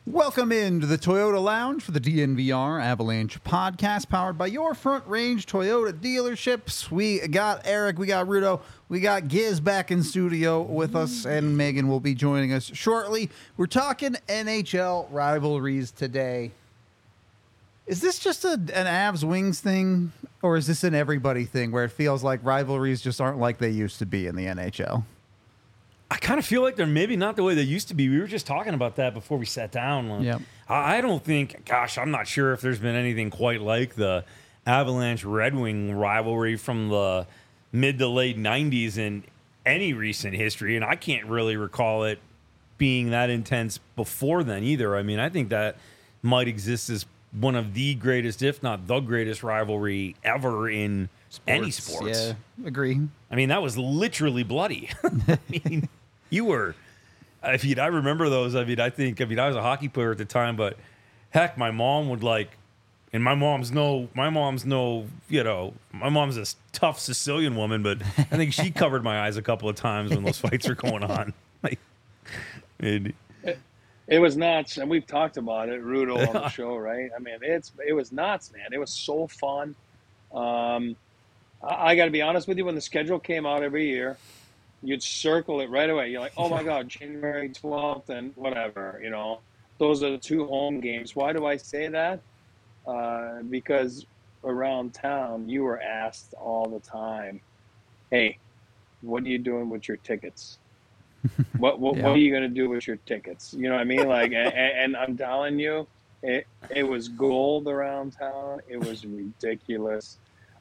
Welcome into the Toyota Lounge for the DNVR Avalanche podcast, powered by your Front Range Toyota dealerships. We got Eric, we got Rudo, we got Giz back in studio with us, and Megan will be joining us shortly. We're talking NHL rivalries today. Is this just an Avs Wings thing, or is this an everybody thing where it feels like rivalries just aren't like they used to be in the NHL? I kind of feel like they're maybe not the way they used to be. We were just talking about that before we sat down. Yep. I don't think, I'm not sure if there's been anything quite like the Avalanche Red Wing rivalry from the mid to late 90s in any recent history. And I can't really recall it being that intense before then either. I mean, I think that might exist as one of the greatest, if not the greatest rivalry ever in any sports. Yeah, agree. I mean, that was literally bloody. I mean, you were, I remember those. I was a hockey player at the time, but heck, my mom would and my mom's a tough Sicilian woman, but I think she covered my eyes a couple of times when those fights were going on. It was nuts, and we've talked about it, Rudo, on the show, right? I mean, it was nuts, man. It was so fun. I got to be honest with you, when the schedule came out every year, you'd circle it right away. You're like, oh, my God, January 12th and whatever, Those are the two home games. Why do I say that? Because around town, you were asked all the time, hey, what are you doing with your tickets? What are you going to do with your tickets? You know what I mean? And I'm telling you, it was gold around town. It was ridiculous.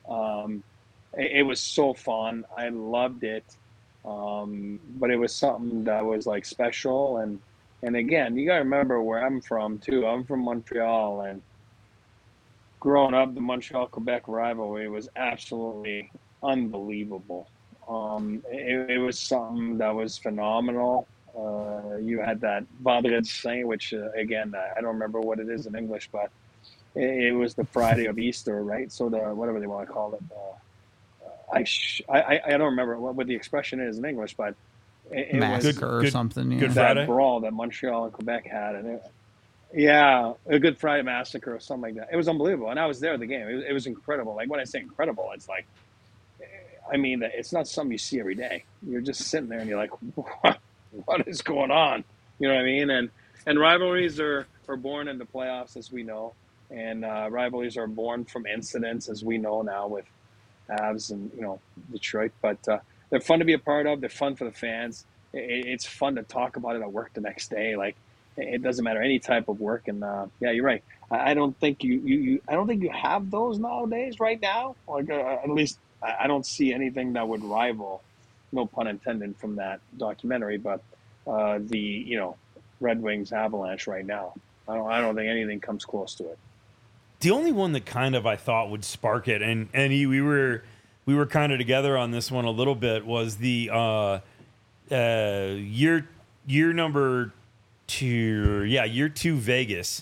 It was so fun. I loved it. But it was something that was special. And again, you got to remember where I'm from too. I'm from Montreal, and growing up, the Montreal-Quebec rivalry was absolutely unbelievable. It was something that was phenomenal. You had that Vendredi Saint, which again, I don't remember what it is in English, but it was the Friday of Easter, right? So whatever they want to call it. I don't remember what the expression is in English, but it Massacre was or something. Yeah. Good that Friday? brawl that Montreal and Quebec had, and a Good Friday Massacre or something like that. It was unbelievable, and I was there at the game. It was incredible. Like, when I say incredible, it's it's not something you see every day. You're just sitting there and you're like, what is going on? You know what I mean? And rivalries are born in the playoffs, as we know, and rivalries are born from incidents, as we know now with Avs and Detroit. But they're fun to be a part of. They're fun for the fans. It's fun to talk about it at work the next day. It doesn't matter, any type of work. And yeah, you're right. I don't think you have those nowadays right now. At least I don't see anything that would rival, no pun intended, from that documentary. But the Red Wings Avalanche right now, I don't think anything comes close to it. The only one that kind of I thought would spark it, and we were kind of together on this one a little bit, was the year number 2, year 2 Vegas,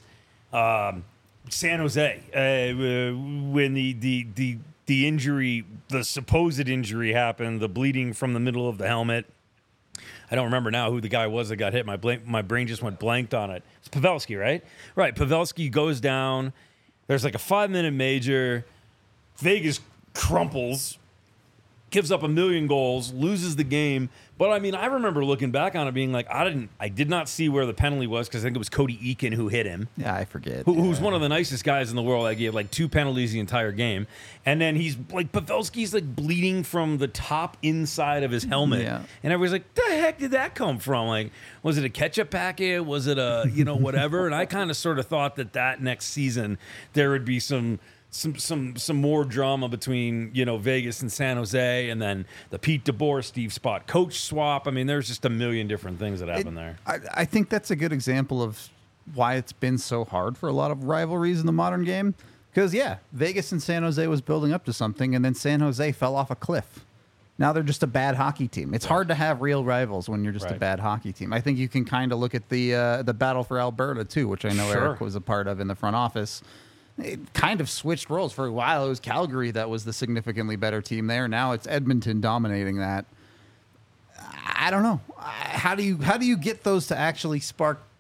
San Jose, when the injury, the supposed injury happened, the bleeding from the middle of the helmet. I don't remember now who the guy was that got hit. My brain just went blanked on it. It's Pavelski, right? Right. Pavelski goes down. There's a 5-minute major. Vegas crumples, gives up 1 million goals, loses the game. But I mean, I remember looking back on it being like, I did not see where the penalty was, because I think it was Cody Eakin who hit him. Yeah, I forget. Who's one of the nicest guys in the world. He had 2 penalties the entire game. And then Pavelski's bleeding from the top inside of his helmet. Yeah. And everybody's like, the heck did that come from? Was it a ketchup packet? Was it a, whatever? And I kind of sort of thought that next season there would be some more drama between Vegas and San Jose, and then the Pete DeBoer, Steve Spott coach swap. I mean, there's just a million different things that happen there. I think that's a good example of why it's been so hard for a lot of rivalries in the modern game. Because Vegas and San Jose was building up to something, and then San Jose fell off a cliff. Now they're just a bad hockey team. It's hard to have real rivals when you're just a bad hockey team. I think you can kind of look at the battle for Alberta too, which I know Eric was a part of in the front office. It kind of switched roles for a while. It was Calgary that was the significantly better team there. Now it's Edmonton dominating that. I don't know. How do you get those to actually spark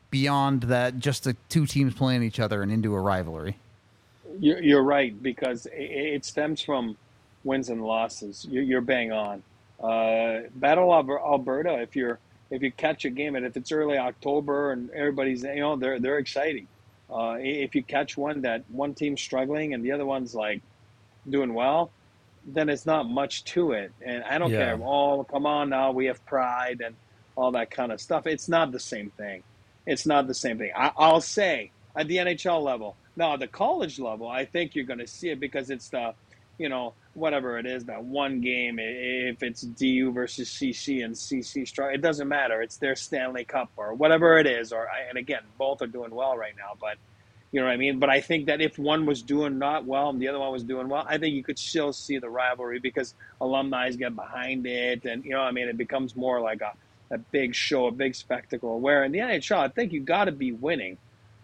beyond that, just the two teams playing each other and into a rivalry. You're right, because it stems from wins and losses. You're bang on. Battle of Alberta. If you catch a game and if it's early October and everybody's they're exciting. If you catch one that one team's struggling and the other one's like doing well, then it's not much to it. And I don't care. Oh, come on now, we have pride and all that kind of stuff. It's not the same thing. It's not the same thing. I'll say at the NHL level. Now, at the college level, I think you're going to see it because it's the, whatever it is, that one game, if it's DU versus CC and CC strike, it doesn't matter. It's their Stanley Cup or whatever it is. And again, both are doing well right now, but you know what I mean? But I think that if one was doing not well and the other one was doing well, I think you could still see the rivalry because alumni get behind it. And, it becomes more like a big show, a big spectacle. Where in the NHL, I think you got to be winning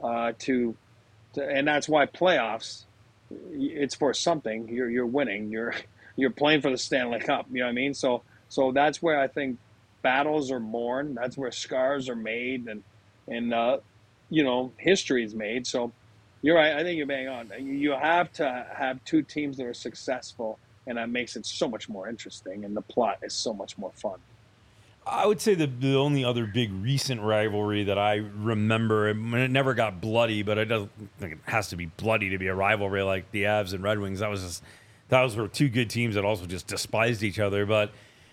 and that's why playoffs, it's for something. You're winning. You're playing for the Stanley Cup. You know what I mean? So that's where I think battles are born. That's where scars are made, and history is made. So you're right. I think you're bang on. You have to have two teams that are successful, and that makes it so much more interesting, and the plot is so much more fun. I would say the only other big recent rivalry that I remember, and it never got bloody, but I don't think it has to be bloody to be a rivalry like the Avs and Red Wings. Those were two good teams that also just despised each other. But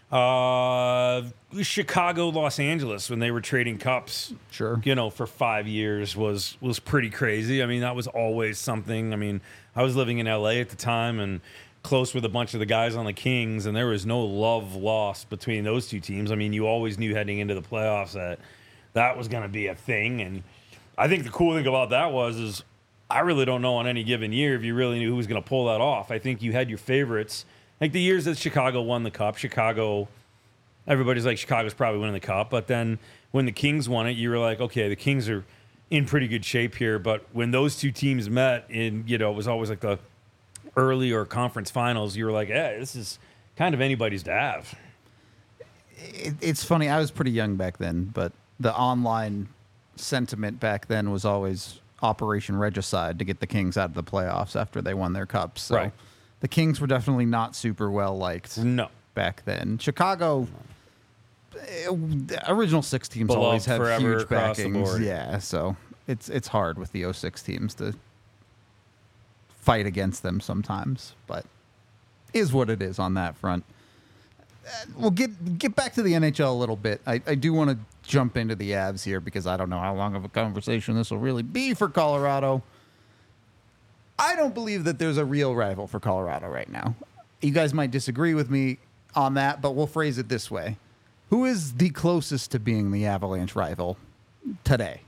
Chicago, Los Angeles, when they were trading cups, sure, for 5 years was pretty crazy. I mean, that was always something. I mean, I was living in LA at the time and close with a bunch of the guys on the Kings, and there was no love lost between those two teams. I mean, you always knew heading into the playoffs that was going to be a thing. And I think the cool thing about that is I really don't know on any given year if you really knew who was going to pull that off. I think you had your favorites. Like the years that Chicago won the cup, everybody's like, Chicago's probably winning the cup. But then when the Kings won it, you were like, okay, the Kings are in pretty good shape here. But when those two teams met, it was always like the early or conference finals, you were like, hey, this is kind of anybody's to have. It's funny. I was pretty young back then, but the online sentiment back then was always Operation Regicide to get the Kings out of the playoffs after they won their cups. So right. The Kings were definitely not super well liked back then. Chicago, original six teams beloved always have huge backings. Yeah, so it's hard with the 06 teams to fight against them sometimes, but is what it is on that front. We'll get back to the NHL a little bit. I do want to jump into the Avs here because I don't know how long of a conversation this will really be for Colorado. I don't believe that there's a real rival for Colorado right now. You guys might disagree with me on that, but we'll phrase it this way. Who is the closest to being the Avalanche rival today?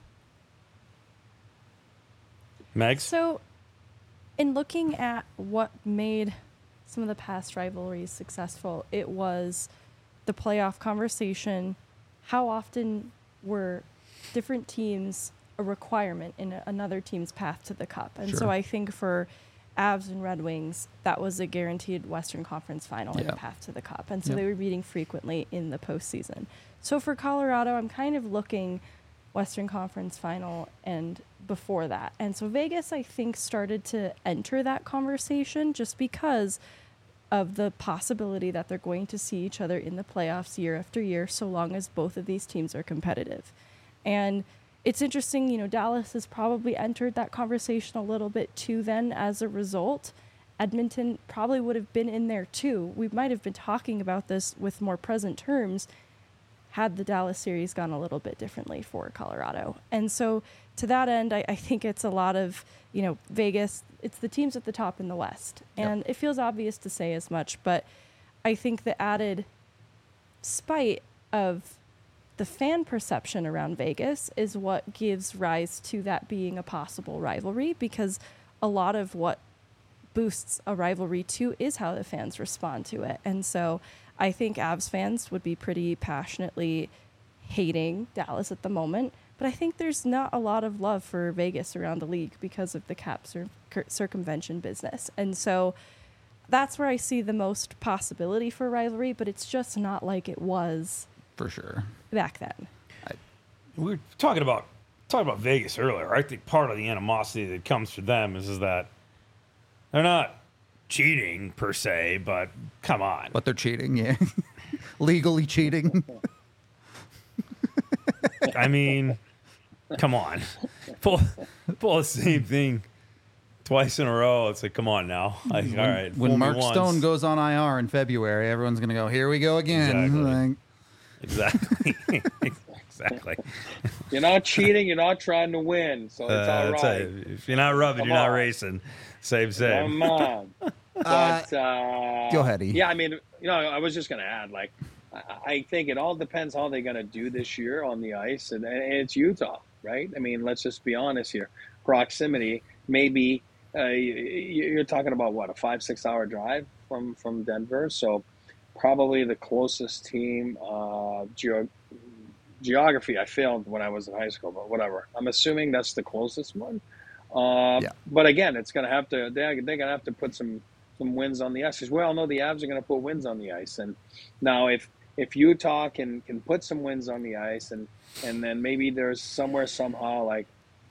Meg? So, in looking at what made some of the past rivalries successful, it was the playoff conversation. How often were different teams a requirement in another team's path to the cup? And so I think for Avs and Red Wings, that was a guaranteed Western Conference final and a path to the cup. And so they were meeting frequently in the postseason. So for Colorado, I'm kind of looking Western Conference final and before that. And so Vegas, I think, started to enter that conversation just because of the possibility that they're going to see each other in the playoffs year after year, so long as both of these teams are competitive. And it's interesting, Dallas has probably entered that conversation a little bit too then as a result. Edmonton probably would have been in there too. We might have been talking about this with more present terms had the Dallas series gone a little bit differently for Colorado. And so to that end, I think it's a lot of, Vegas, it's the teams at the top in the West. And it feels obvious to say as much, but I think the added spite of the fan perception around Vegas is what gives rise to that being a possible rivalry, because a lot of what boosts a rivalry too is how the fans respond to it. And so I think Avs fans would be pretty passionately hating Dallas at the moment, but I think there's not a lot of love for Vegas around the league because of the cap circumvention business. And so that's where I see the most possibility for rivalry, but it's just not like it was for sure back then. We were talking about talked about Vegas earlier. I think part of the animosity that comes for them is that they're not cheating per se, but come on. But they're cheating, yeah. Legally cheating. I mean, come on. Pull the same thing twice in a row. It's like, come on now. Like, all right. When fool me Mark once. Stone goes on IR in February, everyone's going to go, here we go again. Exactly. Exactly. You're not cheating. You're not trying to win. So it's all That's right. it. If you're not rubbing, Come you're not on. racing. Same. Come on. But, Go ahead, E. Yeah, I mean, I was just going to add, like, I think it all depends how they're going to do this year on the ice. And it's Utah, right? I mean, let's just be honest here. Proximity, maybe you're talking about, what, a 5-6 hour drive from Denver? So probably the closest team, geography, I failed when I was in high school, but whatever. I'm assuming that's the closest one. But again, it's going to have to, they're going to have to put some wins on the ice, because we all know the Avs are going to put wins on the ice. And now if Utah can put some wins on the ice, and then maybe there's somehow like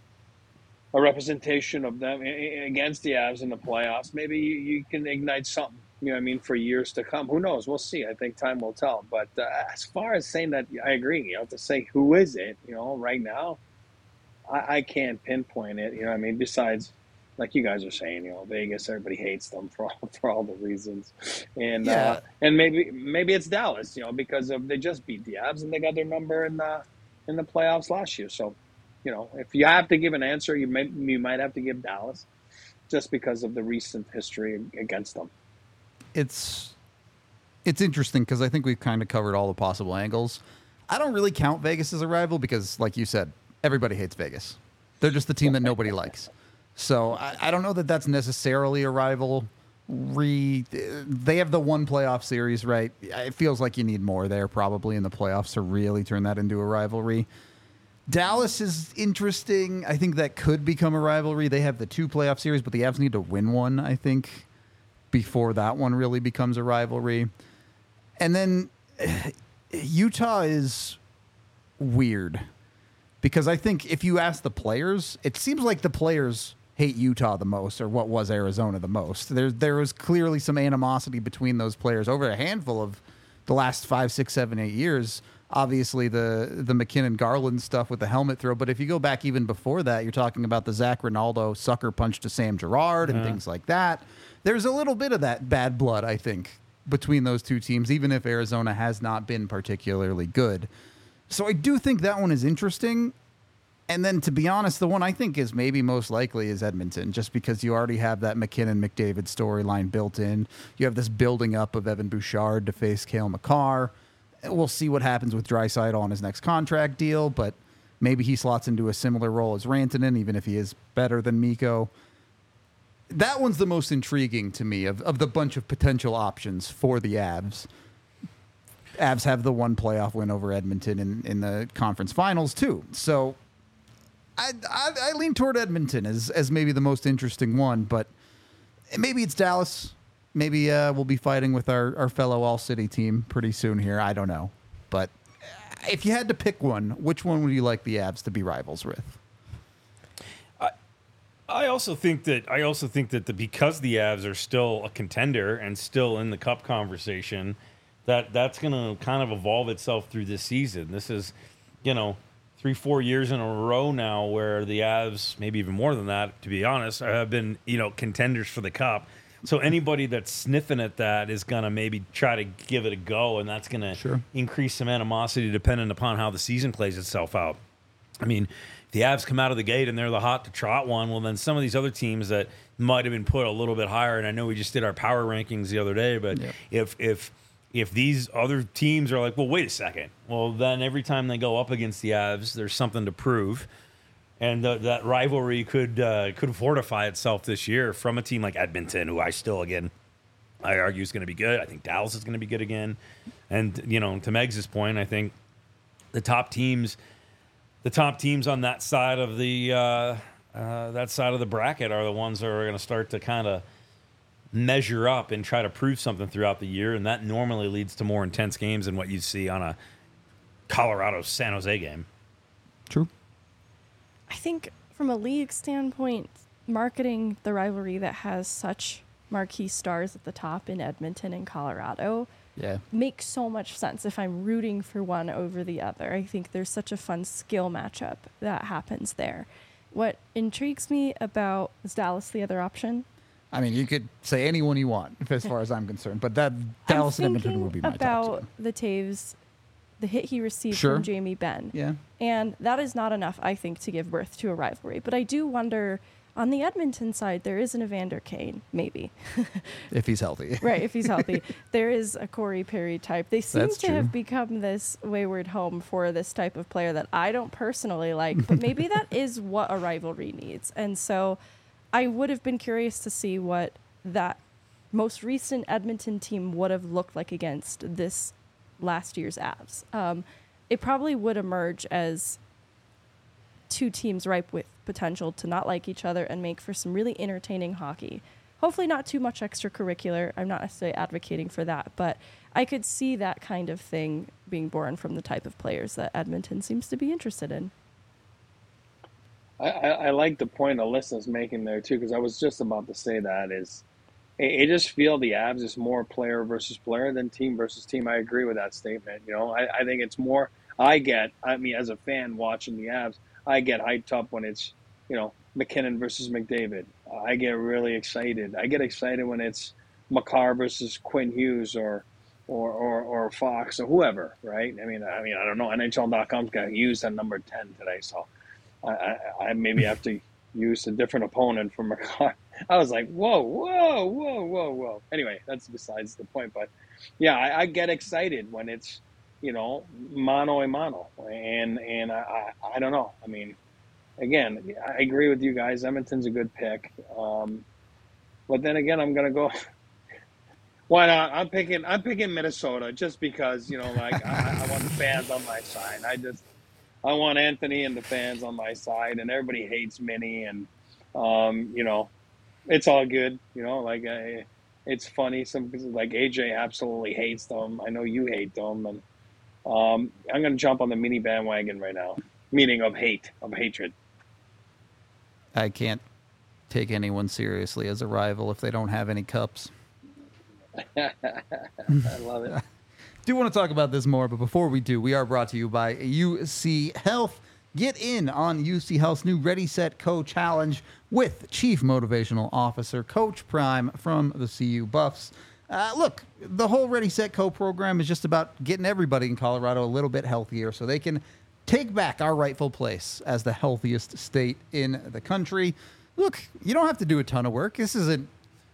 a representation of them against the Avs in the playoffs, maybe you can ignite something, you know what I mean, for years to come. Who knows? We'll see. I think time will tell. But as far as saying that, I agree. You have to say, who is it? Right now, I can't pinpoint it. You know what I mean? Besides, like you guys are saying, Vegas, everybody hates them for all the reasons. And and maybe it's Dallas, because they just beat the Avs and they got their number in the playoffs last year. So, if you have to give an answer, you might have to give Dallas, just because of the recent history against them. It's interesting because I think we've kind of covered all the possible angles. I don't really count Vegas as a rival because, like you said, everybody hates Vegas. They're just the team that nobody likes. So I don't know that that's necessarily a rivalry. They have the one playoff series, right? It feels like you need more there probably in the playoffs to really turn that into a rivalry. Dallas is interesting. I think that could become a rivalry. They have the 2 playoff series, but the Avs need to win one, I think, before that one really becomes a rivalry. And then Utah is weird because I think if you ask the players, it seems like the players hate Utah the most, or what was Arizona the most. There was clearly some animosity between those players over a handful of the last 5, 6, 7, 8 years. Obviously, the McKinnon Garland stuff with the helmet throw, but if you go back even before that, you're talking about the Zach Ronaldo sucker punch to Sam Girard and things like that. There's a little bit of that bad blood, I think, between those two teams, even if Arizona has not been particularly good. So I do think that one is interesting. And then, to be honest, the one I think is maybe most likely is Edmonton, just because you already have that McKinnon-McDavid storyline built in. You have this building up of Evan Bouchard to face Cale Makar. We'll see what happens with Draisaitl on his next contract deal, but maybe he slots into a similar role as Rantanen, even if he is better than Mikko. That one's the most intriguing to me of the bunch of potential options for the Avs. Avs have the one playoff win over Edmonton in the conference finals, too. So I lean toward Edmonton as maybe the most interesting one, but maybe it's Dallas. Maybe we'll be fighting with our fellow All-City team pretty soon here. I don't know. But if you had to pick one, which one would you like the Avs to be rivals with? I also think that because the Avs are still a contender and still in the Cup conversation, that's going to kind of evolve itself through this season. This is, 3-4 years in a row now where the Avs, maybe even more than that, to be honest, have been, contenders for the Cup. So anybody that's sniffing at that is going to maybe try to give it a go, and that's going to increase some animosity depending upon how the season plays itself out. I mean, if the Avs come out of the gate and they're the hot to trot one, well, then some of these other teams that might have been put a little bit higher, and I know we just did our power rankings the other day, but if these other teams are like, well, wait a second, well, then every time they go up against the Avs, there's something to prove. And that rivalry could fortify itself this year from a team like Edmonton, who I argue is going to be good. I think Dallas is going to be good again. And, to Megs' point, I think the top teams on that side of the bracket are the ones that are going to start to kind of measure up and try to prove something throughout the year. And that normally leads to more intense games than what you see on a Colorado-San Jose game. True. I think from a league standpoint, marketing the rivalry that has such marquee stars at the top in Edmonton and Colorado Yeah. makes so much sense if I'm rooting for one over the other. I think there's such a fun skill matchup that happens there. What intrigues me about is Dallas the other option? I mean, you could say anyone you want, as far as I'm concerned, but that Dallas and I'm Edmonton thinking would be my top about two. the Taves, the hit he received Sure. from Jamie Benn. Yeah. And that is not enough, I think, to give birth to a rivalry. But I do wonder, on the Edmonton side, there is an Evander Kane, maybe. If he's healthy. Right, if he's healthy. There is a Corey Perry type. They seem That's to true. have become this wayward home for this type of player that I don't personally like, but maybe that is what a rivalry needs. And so I would have been curious to see what that most recent Edmonton team would have looked like against this last year's Avs. It probably would emerge as two teams ripe with potential to not like each other and make for some really entertaining hockey. Hopefully not too much extracurricular. I'm not necessarily advocating for that, but I could see that kind of thing being born from the type of players that Edmonton seems to be interested in. I like the point Alyssa's making there too, because I was just about to say that is, I just feel the Avs is more player versus player than team versus team. I agree with that statement. You know, I think it's more. I mean, as a fan watching the Avs, I get hyped up when it's, you know, McKinnon versus McDavid. I get really excited. I get excited when it's Makar versus Quinn Hughes or Fox or whoever, right? I mean, I don't know. NHL.com's got Hughes at number 10 today, so I maybe have to use a different opponent for Makar. I was like, whoa. Anyway, that's besides the point. But yeah, I get excited when it's, you know, mano a mano, and I don't know. I mean, again, I agree with you guys. Edmonton's a good pick, but then again, I'm gonna go. Why not? I'm picking Minnesota just because, you know, like I want the fans on my side. I want Anthony and the fans on my side, and everybody hates Minnie, and you know, it's all good. You know, like it's funny. Some like AJ absolutely hates them. I know you hate them, and I'm gonna jump on the Minnie bandwagon right now. Meaning of hatred. I can't take anyone seriously as a rival if they don't have any cups. I love it. Do want to talk about this more, but before we do, we are brought to you by UC Health. Get in on UC Health's new Ready, Set, Co challenge with Chief Motivational Officer Coach Prime from the CU Buffs. Look, the whole Ready, Set, Co program is just about getting everybody in Colorado a little bit healthier so they can take back our rightful place as the healthiest state in the country. Look, you don't have to do a ton of work. This isn't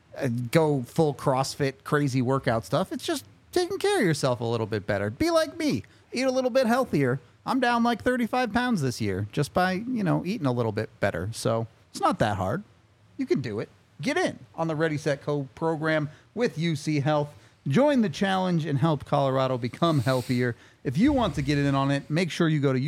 go full CrossFit, crazy workout stuff. It's just taking care of yourself a little bit better. Be like me. Eat a little bit healthier. I'm down like 35 pounds this year just by, you know, eating a little bit better. So it's not that hard. You can do it. Get in on the Ready, Set, Co program with UC Health. Join the challenge and help Colorado become healthier. If you want to get in on it, make sure you go to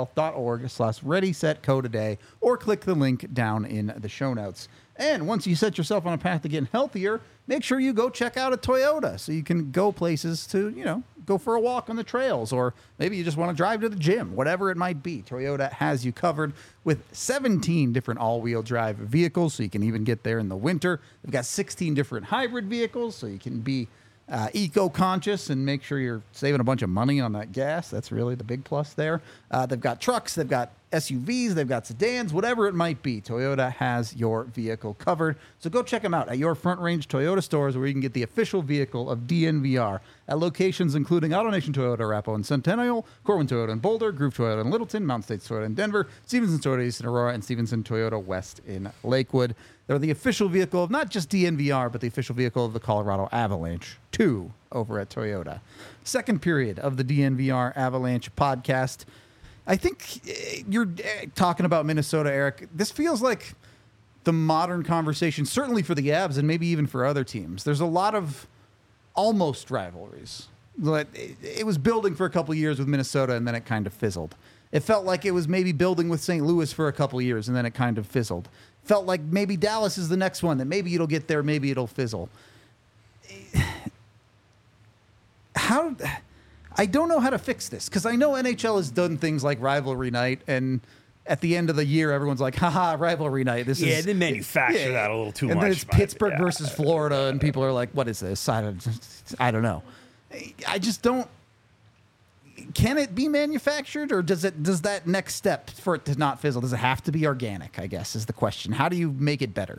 uchealth.org/readysetco today or click the link down in the show notes. And once you set yourself on a path to getting healthier, make sure you go check out a Toyota so you can go places to, you know, go for a walk on the trails, or maybe you just want to drive to the gym, whatever it might be. Toyota has you covered with 17 different all-wheel drive vehicles, so you can even get there in the winter. They've got 16 different hybrid vehicles, so you can be eco-conscious and make sure you're saving a bunch of money on that gas. That's really the big plus there. They've got trucks, they've got SUVs, they've got sedans, whatever it might be. Toyota has your vehicle covered. So go check them out at your Front Range Toyota stores, where you can get the official vehicle of DNVR at locations including AutoNation Toyota, Arapahoe and Centennial, Corwin Toyota in Boulder, Groove Toyota in Littleton, Mountain States Toyota in Denver, Stevenson Toyota East in Aurora, and Stevenson Toyota West in Lakewood. They're the official vehicle of not just DNVR, but the official vehicle of the Colorado Avalanche, too, over at Toyota. Second period of the DNVR Avalanche podcast. I think you're talking about Minnesota, Eric. This feels like the modern conversation, certainly for the Avs and maybe even for other teams. There's a lot of almost rivalries. It was building for a couple of years with Minnesota, and then it kind of fizzled. It felt like it was maybe building with St. Louis for a couple of years, and then it kind of fizzled. Felt like maybe Dallas is the next one, that maybe it'll get there, maybe it'll fizzle. I don't know how to fix this, because I know NHL has done things like Rivalry Night, and at the end of the year, everyone's like, haha, rivalry night. This is they manufacture that a little too and much. then it's but, Pittsburgh yeah. versus Florida, and people are like, what is this? I don't know. I just don't. Can it be manufactured, or does that next step for it to not fizzle? Does it have to be organic? I guess is the question. How do you make it better?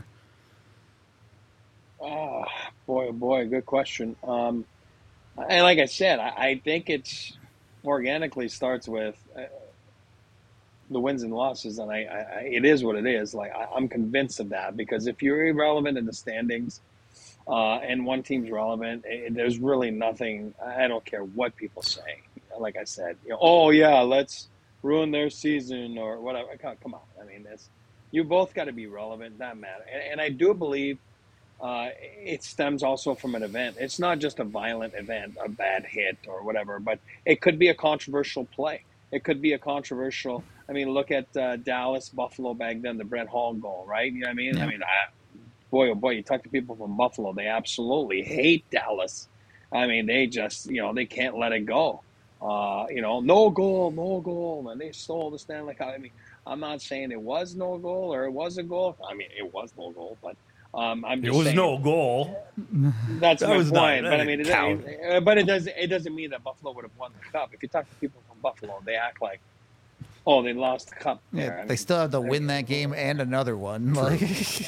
Oh boy, good question. And like I said, I think it's organically starts with the wins and losses, and it is what it is. Like I'm convinced of that, because if you're irrelevant in the standings, and one team's relevant, there's really nothing. I don't care what people say. Like I said, oh yeah, let's ruin their season or whatever. Come on, I mean, you both got to be relevant. That matter, and I do believe it stems also from an event. It's not just a violent event, a bad hit or whatever, but it could be a controversial play. It could be a controversial. I mean, look at Dallas, Buffalo back then, the Brett Hall goal, right? You know what I mean? Yeah. I mean, boy, oh boy, you talk to people from Buffalo, they absolutely hate Dallas. I mean, they just, they can't let it go. No goal, and they stole the Stanley Cup. I mean, I'm not saying it was no goal or it was a goal. I mean, it was no goal, but I'm just saying. It was no goal. That's That my was not- point. that But I didn't mean, count. it doesn't mean that Buffalo would have won the cup. If you talk to people from Buffalo, they act like, oh, they lost the cup. Yeah, there. I they mean, still have to win that game and another one. Like,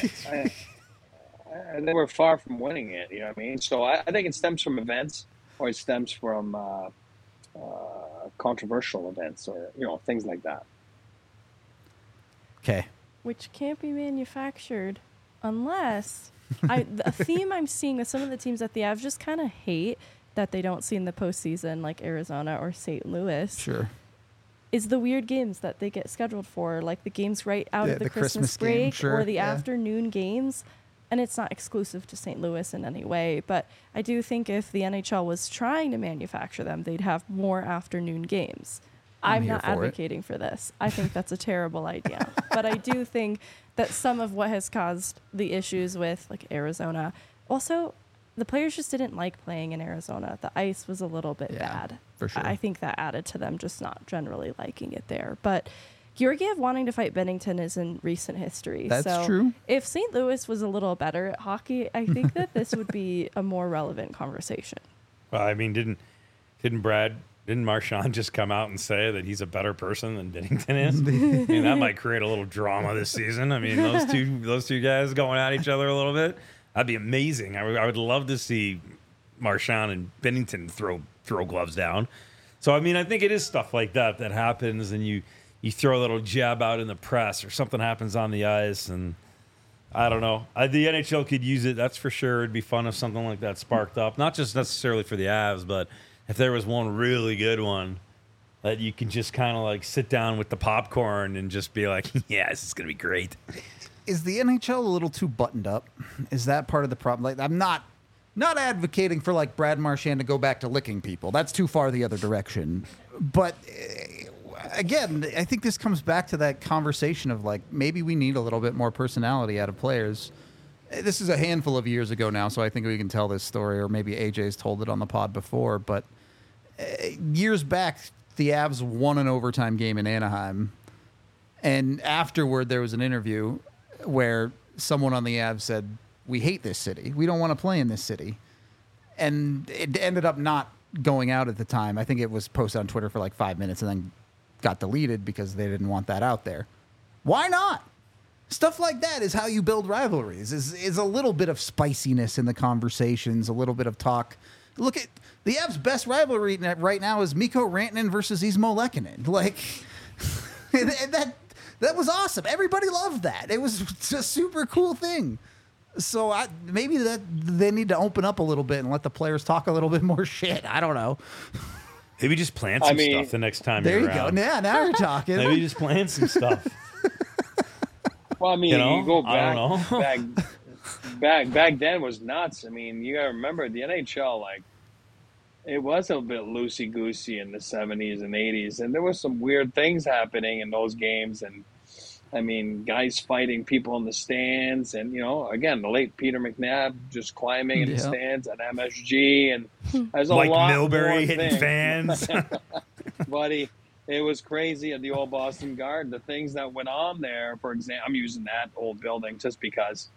they were far from winning it. You know what I mean? So I think it stems from events, or it stems from controversial events, or things like that. okay, Which can't be manufactured unless a theme I'm seeing with some of the teams that the Avs just kind of hate that they don't see in the postseason, like Arizona or St. Louis, sure. is the weird games that they get scheduled for, like the games right out Yeah, of the the Christmas Christmas game, break sure, or the yeah. afternoon games. And it's not exclusive to St. Louis in any way, but I do think if the NHL was trying to manufacture them, they'd have more afternoon games. I'm here not for it. advocating for this. I think that's a terrible idea. But I do think that some of what has caused the issues with like Arizona, also the players just didn't like playing in Arizona. The ice was a little bit Yeah, bad. for sure. I think that added to them just not generally liking it there. But Georgiev wanting to fight Bennington is in recent history. That's so true. If St. Louis was a little better at hockey, I think that this would be a more relevant conversation. Well, I mean, didn't Marchand just come out and say that he's a better person than Bennington is? I mean, that might create a little drama this season. I mean, those two guys going at each other a little bit, that'd be amazing. I would love to see Marchand and Bennington throw gloves down. So, I mean, I think it is stuff like that happens, and you throw a little jab out in the press, or something happens on the ice, and I don't know. The NHL could use it, that's for sure. It'd be fun if something like that sparked up, not just necessarily for the Avs, but if there was one really good one that you can just kind of like sit down with the popcorn and just be like, yeah, this is going to be great. Is the NHL a little too buttoned up? Is that part of the problem? Like, I'm not advocating for like Brad Marchand to go back to licking people. That's too far the other direction. But again, I think this comes back to that conversation of like, maybe we need a little bit more personality out of players. This is a handful of years ago now, so I think we can tell this story, or maybe AJ's told it on the pod before, but years back, the Avs won an overtime game in Anaheim, and afterward there was an interview where someone on the Avs said, we hate this city. We don't want to play in this city. And it ended up not going out at the time. I think it was posted on Twitter for like 5 minutes and then got deleted because they didn't want that out there. Why not? Stuff like that is how you build rivalries, is a little bit of spiciness in the conversations, a little bit of talk. Look at the Avs' best rivalry right now is Mikko Rantanen versus Ismo Lehkonen. Like, and that was awesome. Everybody loved that. It was a super cool thing. So maybe that they need to open up a little bit and let the players talk a little bit more shit. I don't know. Maybe just plan some stuff the next time There you're you around. go. Yeah, now you're talking. Maybe just plan some stuff. Well, I mean, you go I back, don't know. back then was nuts. I mean, you got to remember the NHL, like, it was a bit loosey-goosey in the 70s and 80s, and there were some weird things happening in those games, and, I mean, guys fighting people in the stands, and, again, the late Peter McNabb just climbing in the stands at MSG, and there's a Mike lot Milbury more hitting things. fans. Buddy, It was crazy at the old Boston Garden. The things that went on there, for example, I'm using that old building just because,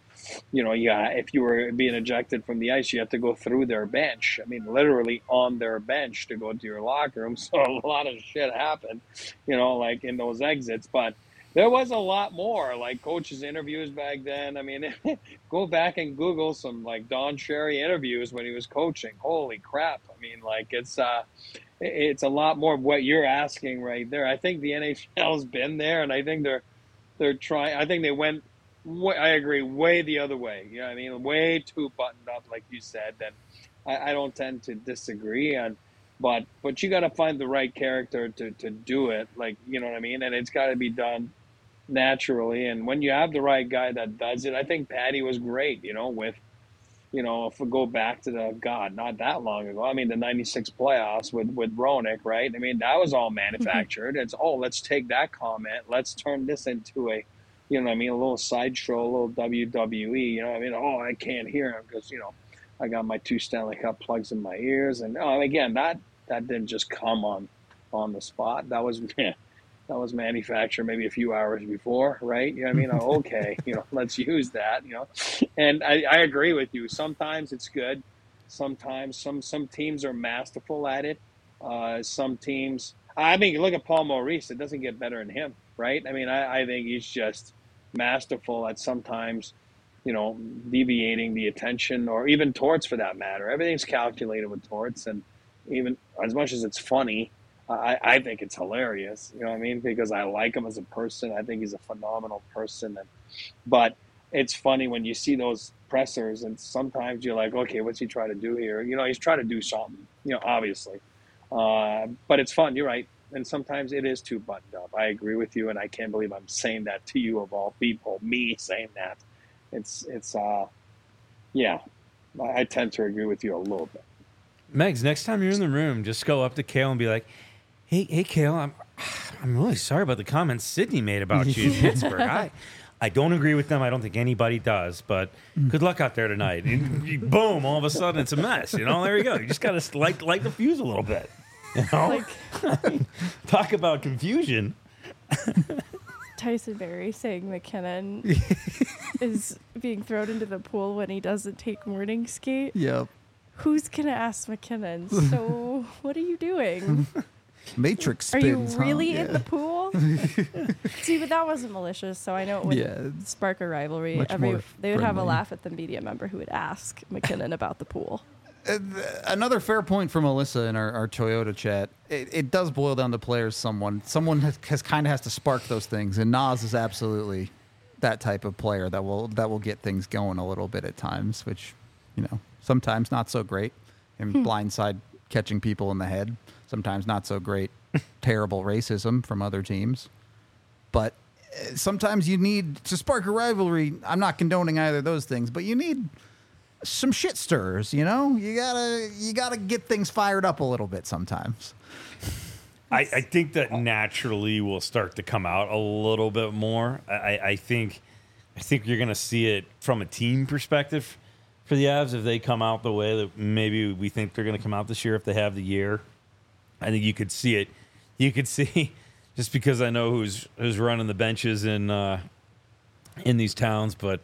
if you were being ejected from the ice, you have to go through their bench. I mean, literally on their bench to go to your locker room. So a lot of shit happened, like in those exits. But there was a lot more, like coaches' interviews back then. I mean, go back and Google some like Don Cherry interviews when he was coaching. Holy crap! I mean, like it's a lot more of what you're asking right there. I think the NHL's been there, and I think they're trying. I think they went. I agree, way the other way. You know what I mean? Way too buttoned up, like you said. And I don't tend to disagree on, but you got to find the right character to do it. Like, you know what I mean? And it's got to be done naturally. And when you have the right guy that does it, I think Patty was great. With. If we go back to not that long ago, I mean, the 96 playoffs with Roenick, right? I mean, that was all manufactured. It's, let's take that comment. Let's turn this into a, a little sideshow, a little WWE, I mean, I can't hear him because, I got my 2 Stanley Cup plugs in my ears. And again, that didn't just come on the spot. That was, that was manufactured maybe a few hours before, right? You know what I mean? Okay, let's use that, And I agree with you. Sometimes it's good. Sometimes some teams are masterful at it. Some teams, I mean, look at Paul Maurice. It doesn't get better than him, right? I mean, I think he's just masterful at sometimes, deviating the attention, or even Torts for that matter. Everything's calculated with Torts, and even as much as it's funny, I think it's hilarious, you know what I mean? Because I like him as a person. I think he's a phenomenal person. But it's funny when you see those pressers, and sometimes you're like, okay, what's he trying to do here? He's trying to do something, obviously. But it's fun, you're right. And sometimes it is too buttoned up. I agree with you, and I can't believe I'm saying that to you of all people, me saying that. Yeah, I tend to agree with you a little bit. Megs, next time you're in the room, just go up to Kale and be like, Hey, Kale, I'm really sorry about the comments Sydney made about you in Pittsburgh. I don't agree with them. I don't think anybody does, but good luck out there tonight. And boom, all of a sudden it's a mess. There you go. You just got to light the fuse a little bit. Talk about confusion. Tyson Berry saying McKinnon is being thrown into the pool when he doesn't take morning skate. Yep. Who's going to ask McKinnon? So what are you doing? Matrix spins, spins. Are you really in the pool? See, but that wasn't malicious, so I know it would spark a rivalry. They would have a laugh at the media member who would ask McKinnon about the pool. Another fair point from Melissa in our Toyota chat. It does boil down to players. Someone has kind of has to spark those things, and Nas is absolutely that type of player that will get things going a little bit at times, which sometimes not so great. And blindside catching people in the head. Sometimes not so great, terrible racism from other teams. But sometimes you need to spark a rivalry. I'm not condoning either of those things, but you need some shit stirrers, You gotta get things fired up a little bit sometimes. I think that naturally will start to come out a little bit more. I think you're going to see it from a team perspective for the Avs if they come out the way that maybe we think they're going to come out this year if they have the year. I think you could see it. You could see, just because I know who's running the benches in these towns, but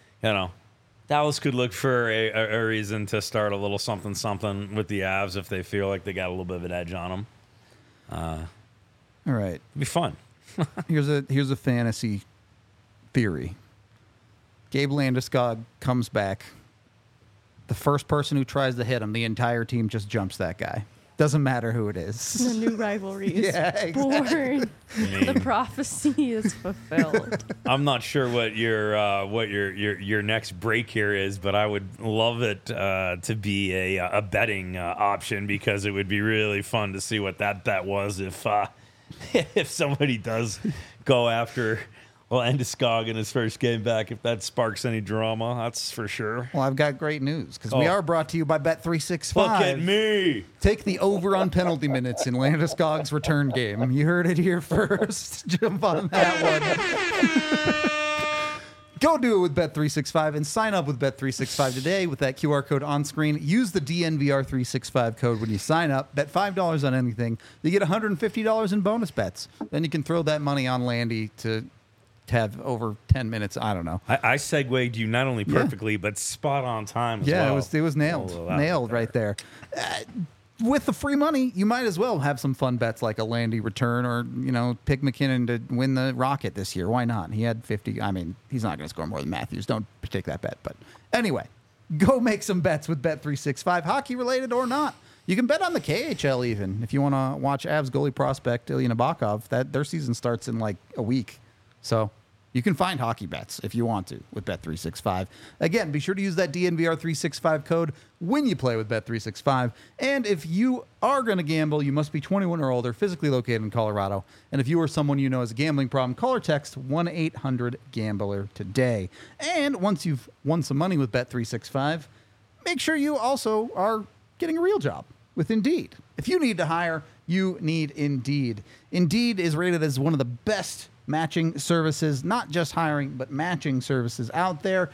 Dallas could look for a reason to start a little something with the Avs if they feel like they got a little bit of an edge on them. All right, it'd be fun. Here's a fantasy theory. Gabe Landeskog comes back. The first person who tries to hit him, the entire team just jumps that guy. Doesn't matter who it is. The new rivalry is born. The prophecy is fulfilled. I'm not sure what your next break here is, but I would love it to be a betting option, because it would be really fun to see what that bet was if somebody does go after Landeskog in his first game back, if that sparks any drama. That's for sure. Well, I've got great news, because we are brought to you by Bet365. Look at me. Take the over on penalty minutes in Landeskog's return game. You heard it here first. Jump on that one. Go do it with Bet365 and sign up with Bet365 today with that QR code on screen. Use the DNVR365 code when you sign up. Bet $5 on anything. You get $150 in bonus bets. Then you can throw that money on Landy to have over 10 minutes. I don't know. I segued you not only perfectly, but spot on time as well. Yeah, it was nailed. Nailed right there. With the free money, you might as well have some fun bets like a Landy return or, pick McKinnon to win the Rocket this year. Why not? He had 50. I mean, he's not going to score more than Matthews. Don't take that bet. But anyway, go make some bets with Bet365, hockey related or not. You can bet on the KHL even if you want to watch Avs goalie prospect Ilya Nabokov. Their season starts in like a week. So you can find hockey bets if you want to with Bet365. Again, be sure to use that DNVR365 code when you play with Bet365. And if you are going to gamble, you must be 21 or older, physically located in Colorado. And if you or someone you know has a gambling problem, call or text 1-800-GAMBLER today. And once you've won some money with Bet365, make sure you also are getting a real job with Indeed. If you need to hire, you need Indeed. Indeed is rated as one of the best matching services, not just hiring, but matching services out there.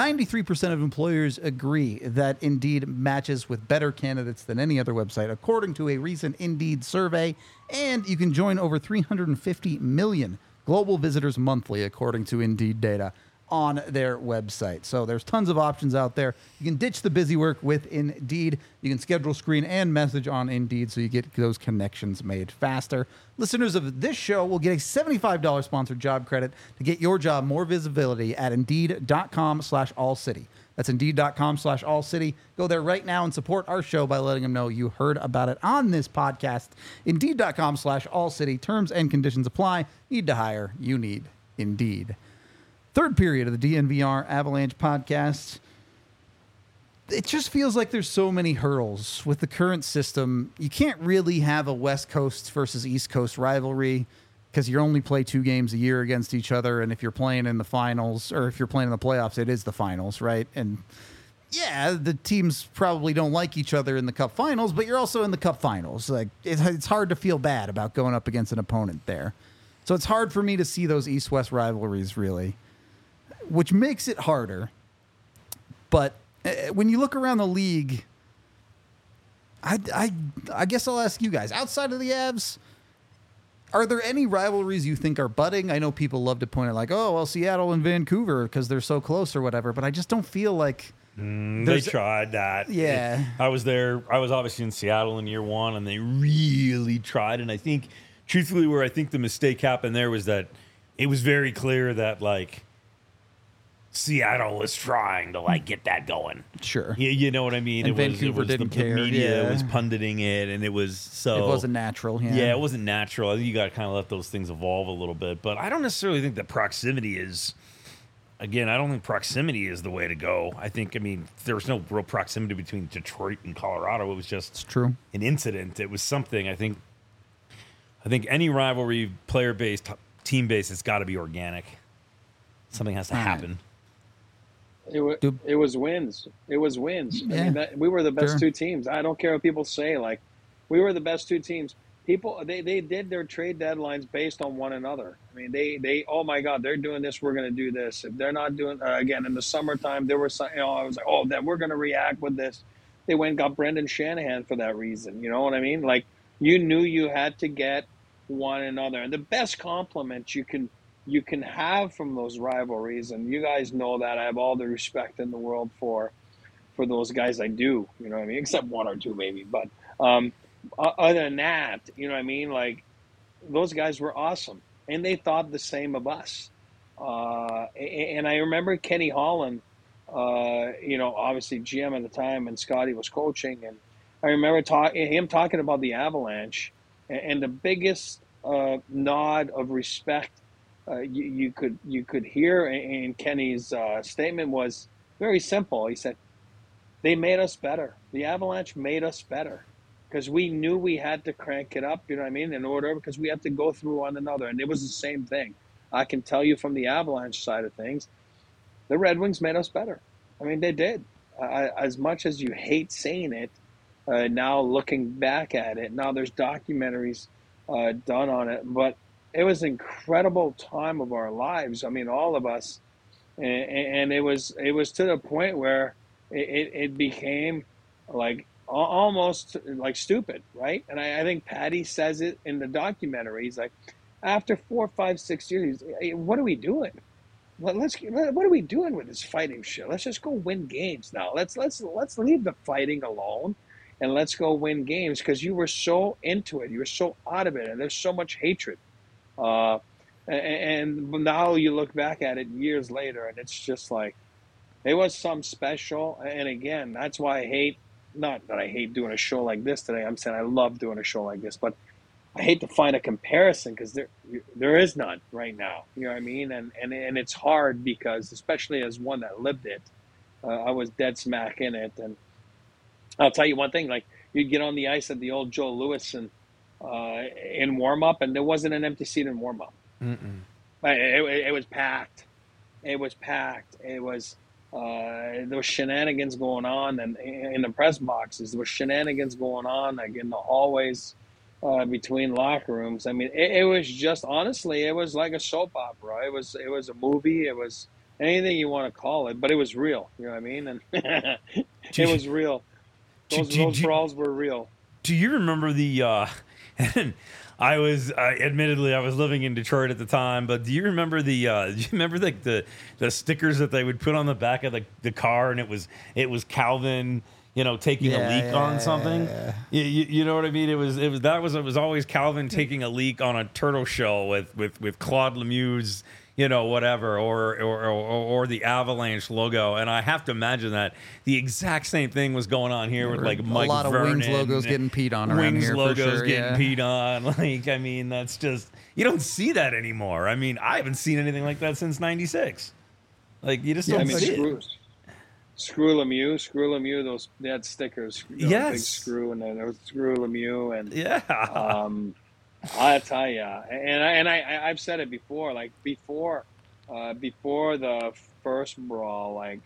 93% of employers agree that Indeed matches with better candidates than any other website, according to a recent Indeed survey. And you can join over 350 million global visitors monthly, according to Indeed data on their website. So there's tons of options out there. You can ditch the busy work with Indeed. You can schedule, screen, and message on Indeed so you get those connections made faster. Listeners of this show will get a $75 sponsored job credit to get your job more visibility at Indeed.com/AllCity. That's Indeed.com/AllCity. Go there right now and support our show by letting them know you heard about it on this podcast. Indeed.com/AllCity. Terms and conditions apply. Need to hire. You need Indeed. Third period of the DNVR Avalanche podcast. It just feels like there's so many hurdles with the current system. You can't really have a West Coast versus East Coast rivalry because you only play 2 games a year against each other. And if you're playing in the finals or if you're playing in the playoffs, it is the finals, right? And yeah, the teams probably don't like each other in the Cup finals, but you're also in the Cup finals. Like it's hard to feel bad about going up against an opponent there. So it's hard for me to see those East-West rivalries really, which makes it harder. But when you look around the league, I guess I'll ask you guys, outside of the Avs, are there any rivalries you think are budding? I know people love to point out like, oh, well, Seattle and Vancouver because they're so close or whatever, but I just don't feel like they tried that. Yeah. I was there. I was obviously in Seattle in year 1, and they really tried. And I think, truthfully, where I think the mistake happened there was that it was very clear that, like, Seattle was trying to get that going. Sure. You know what I mean? And Vancouver didn't care. The media Yeah. was punditing it, and it was so... It wasn't natural. Yeah, it wasn't natural. I think you got to kind of let those things evolve a little bit. But I don't necessarily think that proximity is... Again, I don't think proximity is the way to go. I mean, there was no real proximity between Detroit and Colorado. It was just It's true. an incident. It was something. I think any rivalry, player-based, team-based, it's got to be organic. Something has to happen. It was wins. It was wins. Yeah. I mean, we were the best Sure. 2 teams. I don't care what people say. Like, we were the best 2 teams. People, they did their trade deadlines based on one another. I mean, they oh my God, they're doing this. We're going to do this. If they're not doing again in the summertime, there were some. I was like, oh, that we're going to react with this. They went and got Brendan Shanahan for that reason. You know what I mean? Like, you knew you had to get one another, and the best compliment you can have from those rivalries, and you guys know that I have all the respect in the world for those guys. I do, you know what I mean, except 1 or 2 maybe, but other than that, you know what I mean, like, those guys were awesome, and they thought the same of us. And I remember Kenny Holland, obviously GM at the time, and Scotty was coaching, and I remember him talking about the Avalanche, and the biggest nod of respect you could hear in Kenny's statement was very simple. He said, "They made us better. The Avalanche made us better because we knew we had to crank it up. You know what I mean? In order, because we had to go through one another, and it was the same thing. I can tell you from the Avalanche side of things, the Red Wings made us better. I mean, they did. As much as you hate saying it, now looking back at it, now there's documentaries done on it, but it was an incredible time of our lives. I mean, all of us and it was to the point where it became like almost like stupid, right? And I think Patty says it in the documentary. He's like, after 4, 5, 6 years, hey, what are we doing? What are we doing with this fighting shit? Let's just go win games now. Let's leave the fighting alone, and let's go win games, because you were so into it, you were so out of it, and there's so much hatred. Uh, and now you look back at it years later, and it's just like it was some special. And again, that's why I hate. Not that I hate doing a show like this today. I'm saying I love doing a show like this, but I hate to find a comparison, because there is none right now. You know what I mean? And it's hard, because especially as one that lived it, I was dead smack in it. And I'll tell you one thing: like, you'd get on the ice at the old Joe Louis and in warm up, and there wasn't an empty seat in warm up. It was packed. It was packed. It was. There was shenanigans going on, and in the press boxes, there was shenanigans going on, like in the hallways between locker rooms. I mean, it was just, honestly, it was like a soap opera. It was a movie. It was anything you want to call it, but it was real. You know what I mean? And it was real. Those brawls were real. Do you remember the? And I was admittedly I was living in Detroit at the time, but do you remember do you remember like the stickers that they would put on the back of the car, and it was Calvin, taking a leak on something. Yeah. You know what I mean? It was always Calvin taking a leak on a turtle shell with Claude Lemieux's, whatever, or the Avalanche logo. And I have to imagine that the exact same thing was going on here with like Mike a lot Vernon. of Wings logos getting peed on around Wings here. logos for sure, getting peed on. Like, I mean, that's just, you don't see that anymore. I mean, I haven't seen anything like that since '96. Like, you just don't see it. Screw Lemieux, those, they had stickers. Yes. Big screw, and then there was Screw Lemieux, and Yeah. I tell you, and I've said it before, like before the first brawl, like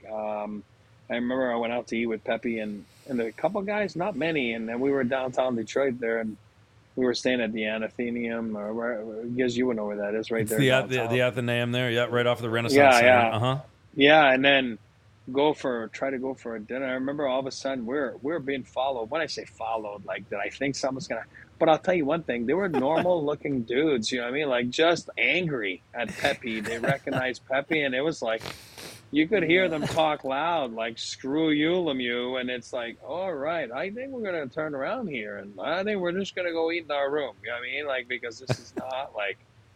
I remember I went out to eat with Pepe and a couple guys, not many, and then we were downtown Detroit there, and we were staying at the Athenaeum, or where, guess you would know where that is, right It's there. the Athenaeum there, yeah, right off the Renaissance Center. Yeah. Yeah, and then try to go for a dinner. I remember all of a sudden we're being followed. When I say followed, like, that I think someone's gonna. But I'll tell you one thing: they were normal looking dudes. You know what I mean? Like, just angry at Pepe. They recognized Pepe, and it was like you could hear them talk loud, like "Screw you, Lemieux," and it's like, all right, I think we're gonna turn around here, and I think we're just gonna go eat in our room. You know what I mean? Like, because this is not like.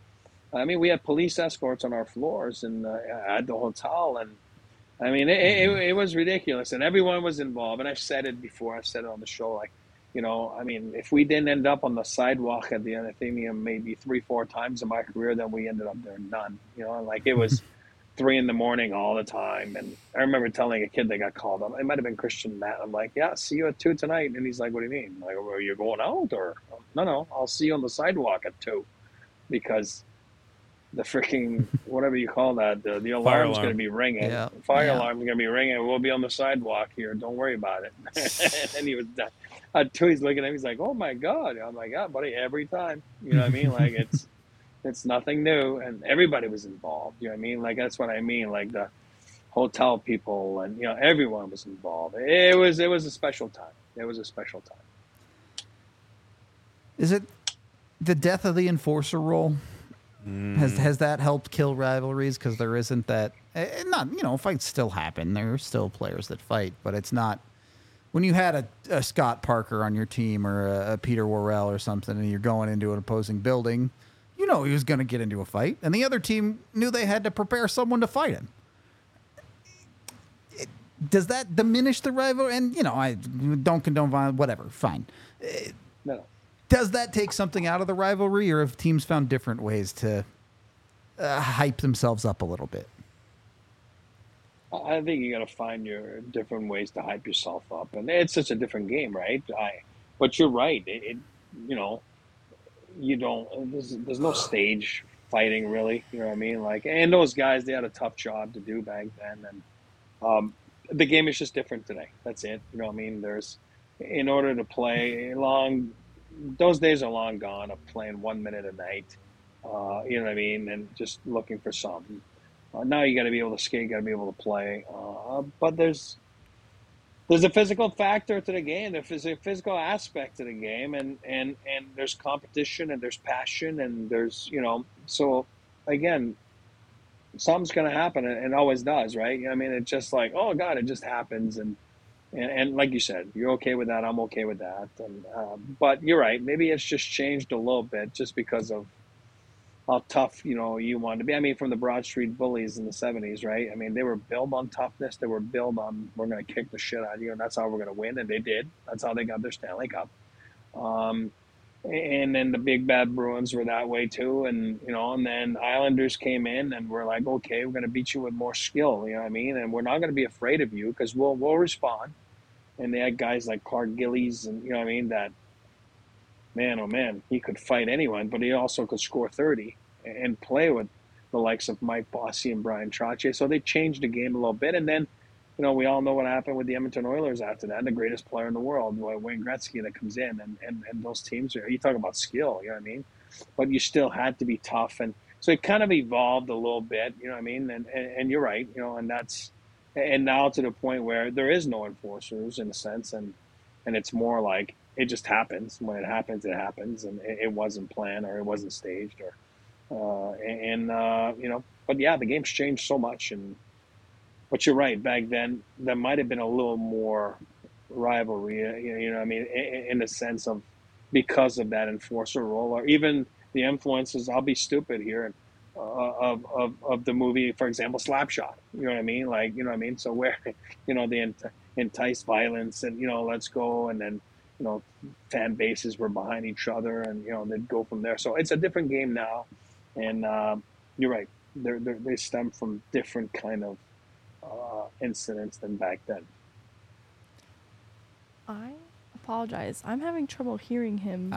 I mean, we had police escorts on our floors and at the hotel, and I mean, it was ridiculous, and everyone was involved. And I've said it before. I've said it on the show. Like, I mean, if we didn't end up on the sidewalk at the Athenaeum maybe 3-4 times in my career, then we ended up there none. Like, it was 3 a.m. all the time. And I remember telling a kid that got called up. It might have been Christian Matt. I'm like, yeah, see you at 2 tonight. And he's like, what do you mean? Like, are you going out? Or no, I'll see you on the sidewalk at 2, because the freaking, whatever you call that, the alarm's going to be ringing. Yeah. Fire alarm's going to be ringing. We'll be on the sidewalk here. Don't worry about it. And he was done. Until he's looking at me, he's like, oh my God. I'm like, yeah, buddy, every time. You know what I mean? Like, it's nothing new. And everybody was involved. You know what I mean? Like, that's what I mean. Like, the hotel people and, everyone was involved. It was a special time. It was a special time. Is it the death of the enforcer role? Has that helped kill rivalries? Because there isn't that. Not, fights still happen. There are still players that fight, but it's not. When you had a Scott Parker on your team, or a Peter Worrell or something, and you're going into an opposing building, he was going to get into a fight, and the other team knew they had to prepare someone to fight him. Does that diminish the rivalry? And I don't condone violence. Whatever, fine. No. Does that take something out of the rivalry, or have teams found different ways to hype themselves up a little bit? I think you got to find your different ways to hype yourself up, and it's such a different game, right? But you're right. You don't. There's no stage fighting, really. You know what I mean? Like, and those guys, they had a tough job to do back then, and the game is just different today. That's it. You know what I mean? In order to play long. Those days are long gone of playing 1 minute a night, you know what I mean, and just looking for something. Now you got to be able to skate, got to be able to play. But there's a physical factor to the game. There's a physical aspect to the game, and there's competition, and there's passion, and there's So again, something's going to happen, and it always does, right? I mean, it's just like, oh God, it just happens, and like you said, you're okay with that. I'm okay with that. And but you're right. Maybe it's just changed a little bit, just because of how tough you wanted to be. I mean, from the Broad Street Bullies in the '70s, right? I mean, they were built on toughness. They were built on, we're going to kick the shit out of you, and that's how we're going to win. And they did. That's how they got their Stanley Cup. And then the big bad Bruins were that way too. And and then Islanders came in and we're like, okay, we're going to beat you with more skill. You know what I mean? And we're not going to be afraid of you, because we'll respond. And they had guys like Clark Gillies, and what I mean, that man, oh man, he could fight anyone, but he also could score 30 and play with the likes of Mike Bossy and Brian Trottier. So they changed the game a little bit. And then, we all know what happened with the Edmonton Oilers after that. The greatest player in the world, Wayne Gretzky, that comes in, and those teams you talk about skill, you know what I mean? But you still had to be tough. And so it kind of evolved a little bit, you know what I mean? And you're right, and now to the point where there is no enforcers in a sense. And it's more like, it just happens. When it happens, it happens, and it wasn't planned, or it wasn't staged, but yeah, the game's changed so much. But you're right. Back then, there might have been a little more rivalry. What I mean, in the sense of, because of that enforcer role, or even the influences. I'll be stupid here. Of the movie, for example, Slapshot. You know what I mean? Like, you know what I mean? So where, they entice violence, and let's go, and then fan bases were behind each other, and they'd go from there. So it's a different game now, and you're right. They stem from different kind of incidents than back then. I apologize. I'm having trouble hearing him.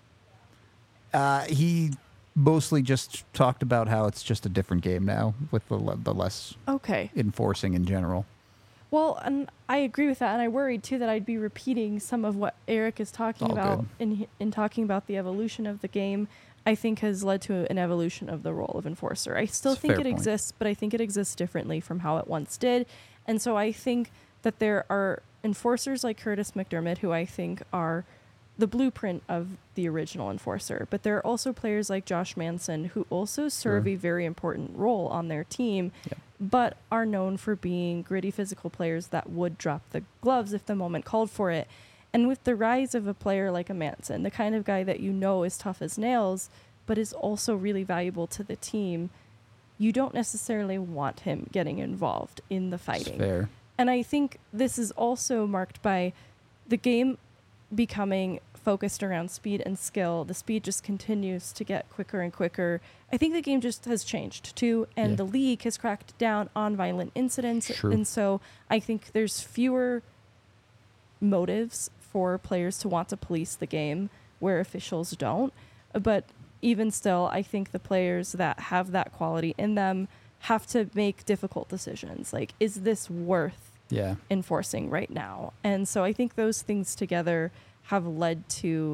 He mostly just talked about how it's just a different game now, with the less enforcing in general. Well, and I agree with that, and I worried too that I'd be repeating some of what Eric is talking about in talking about the evolution of the game. I think has led to an evolution of the role of enforcer. I still think it exists, but I think it exists differently from how it once did. And so I think that there are enforcers like Curtis McDermott, who I think are the blueprint of the original enforcer. But there are also players like Josh Manson, who also serve a very important role on their team, but are known for being gritty physical players that would drop the gloves if the moment called for it. And with the rise of a player like a Manson, the kind of guy that is tough as nails, but is also really valuable to the team, you don't necessarily want him getting involved in the fighting. That's fair. And I think this is also marked by the game becoming focused around speed and skill. The speed just continues to get quicker and quicker. I think the game just has changed too, and the league has cracked down on violent incidents. True. And so I think there's fewer motives for players to want to police the game where officials don't. But even still, I think the players that have that quality in them have to make difficult decisions. Like, is this worth enforcing right now? And so I think those things together have led to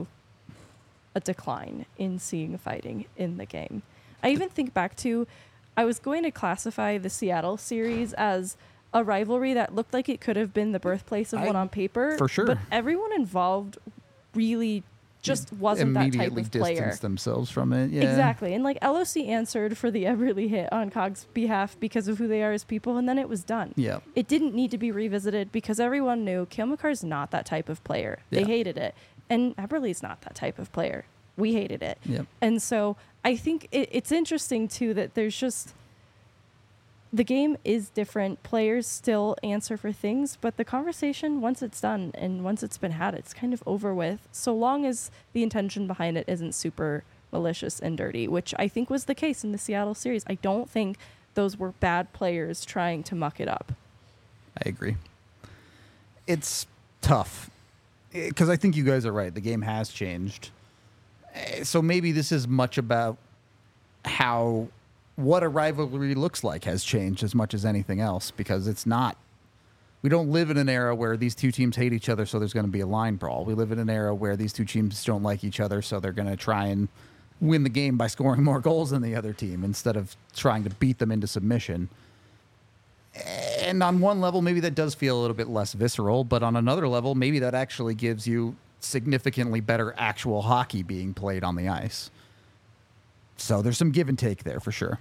a decline in seeing fighting in the game. I even think back to, I was going to classify the Seattle series as a rivalry that looked like it could have been the birthplace of one on paper. For sure. But everyone involved really just wasn't that type immediately of player. distanced themselves from it. Yeah. Exactly. And like LOC answered for the Eberle hit on COG's behalf because of who they are as people, and then it was done. Yeah. It didn't need to be revisited because everyone knew Cale Makar's not that type of player. They hated it. And Eberle's not that type of player. We hated it. Yep. And so I think it's interesting too that there's just, the game is different. Players still answer for things, but the conversation, once it's done and once it's been had, it's kind of over with, so long as the intention behind it isn't super malicious and dirty, which I think was the case in the Seattle series. I don't think those were bad players trying to muck it up. I agree. It's tough because I think you guys are right. The game has changed. So maybe this is much about how what a rivalry looks like has changed as much as anything else, because it's not, we don't live in an era where these two teams hate each other, so there's going to be a line brawl. We live in an era where these two teams don't like each other, so they're going to try and win the game by scoring more goals than the other team instead of trying to beat them into submission. And on one level, maybe that does feel a little bit less visceral, but on another level, maybe that actually gives you significantly better actual hockey being played on the ice. So there's some give and take there for sure.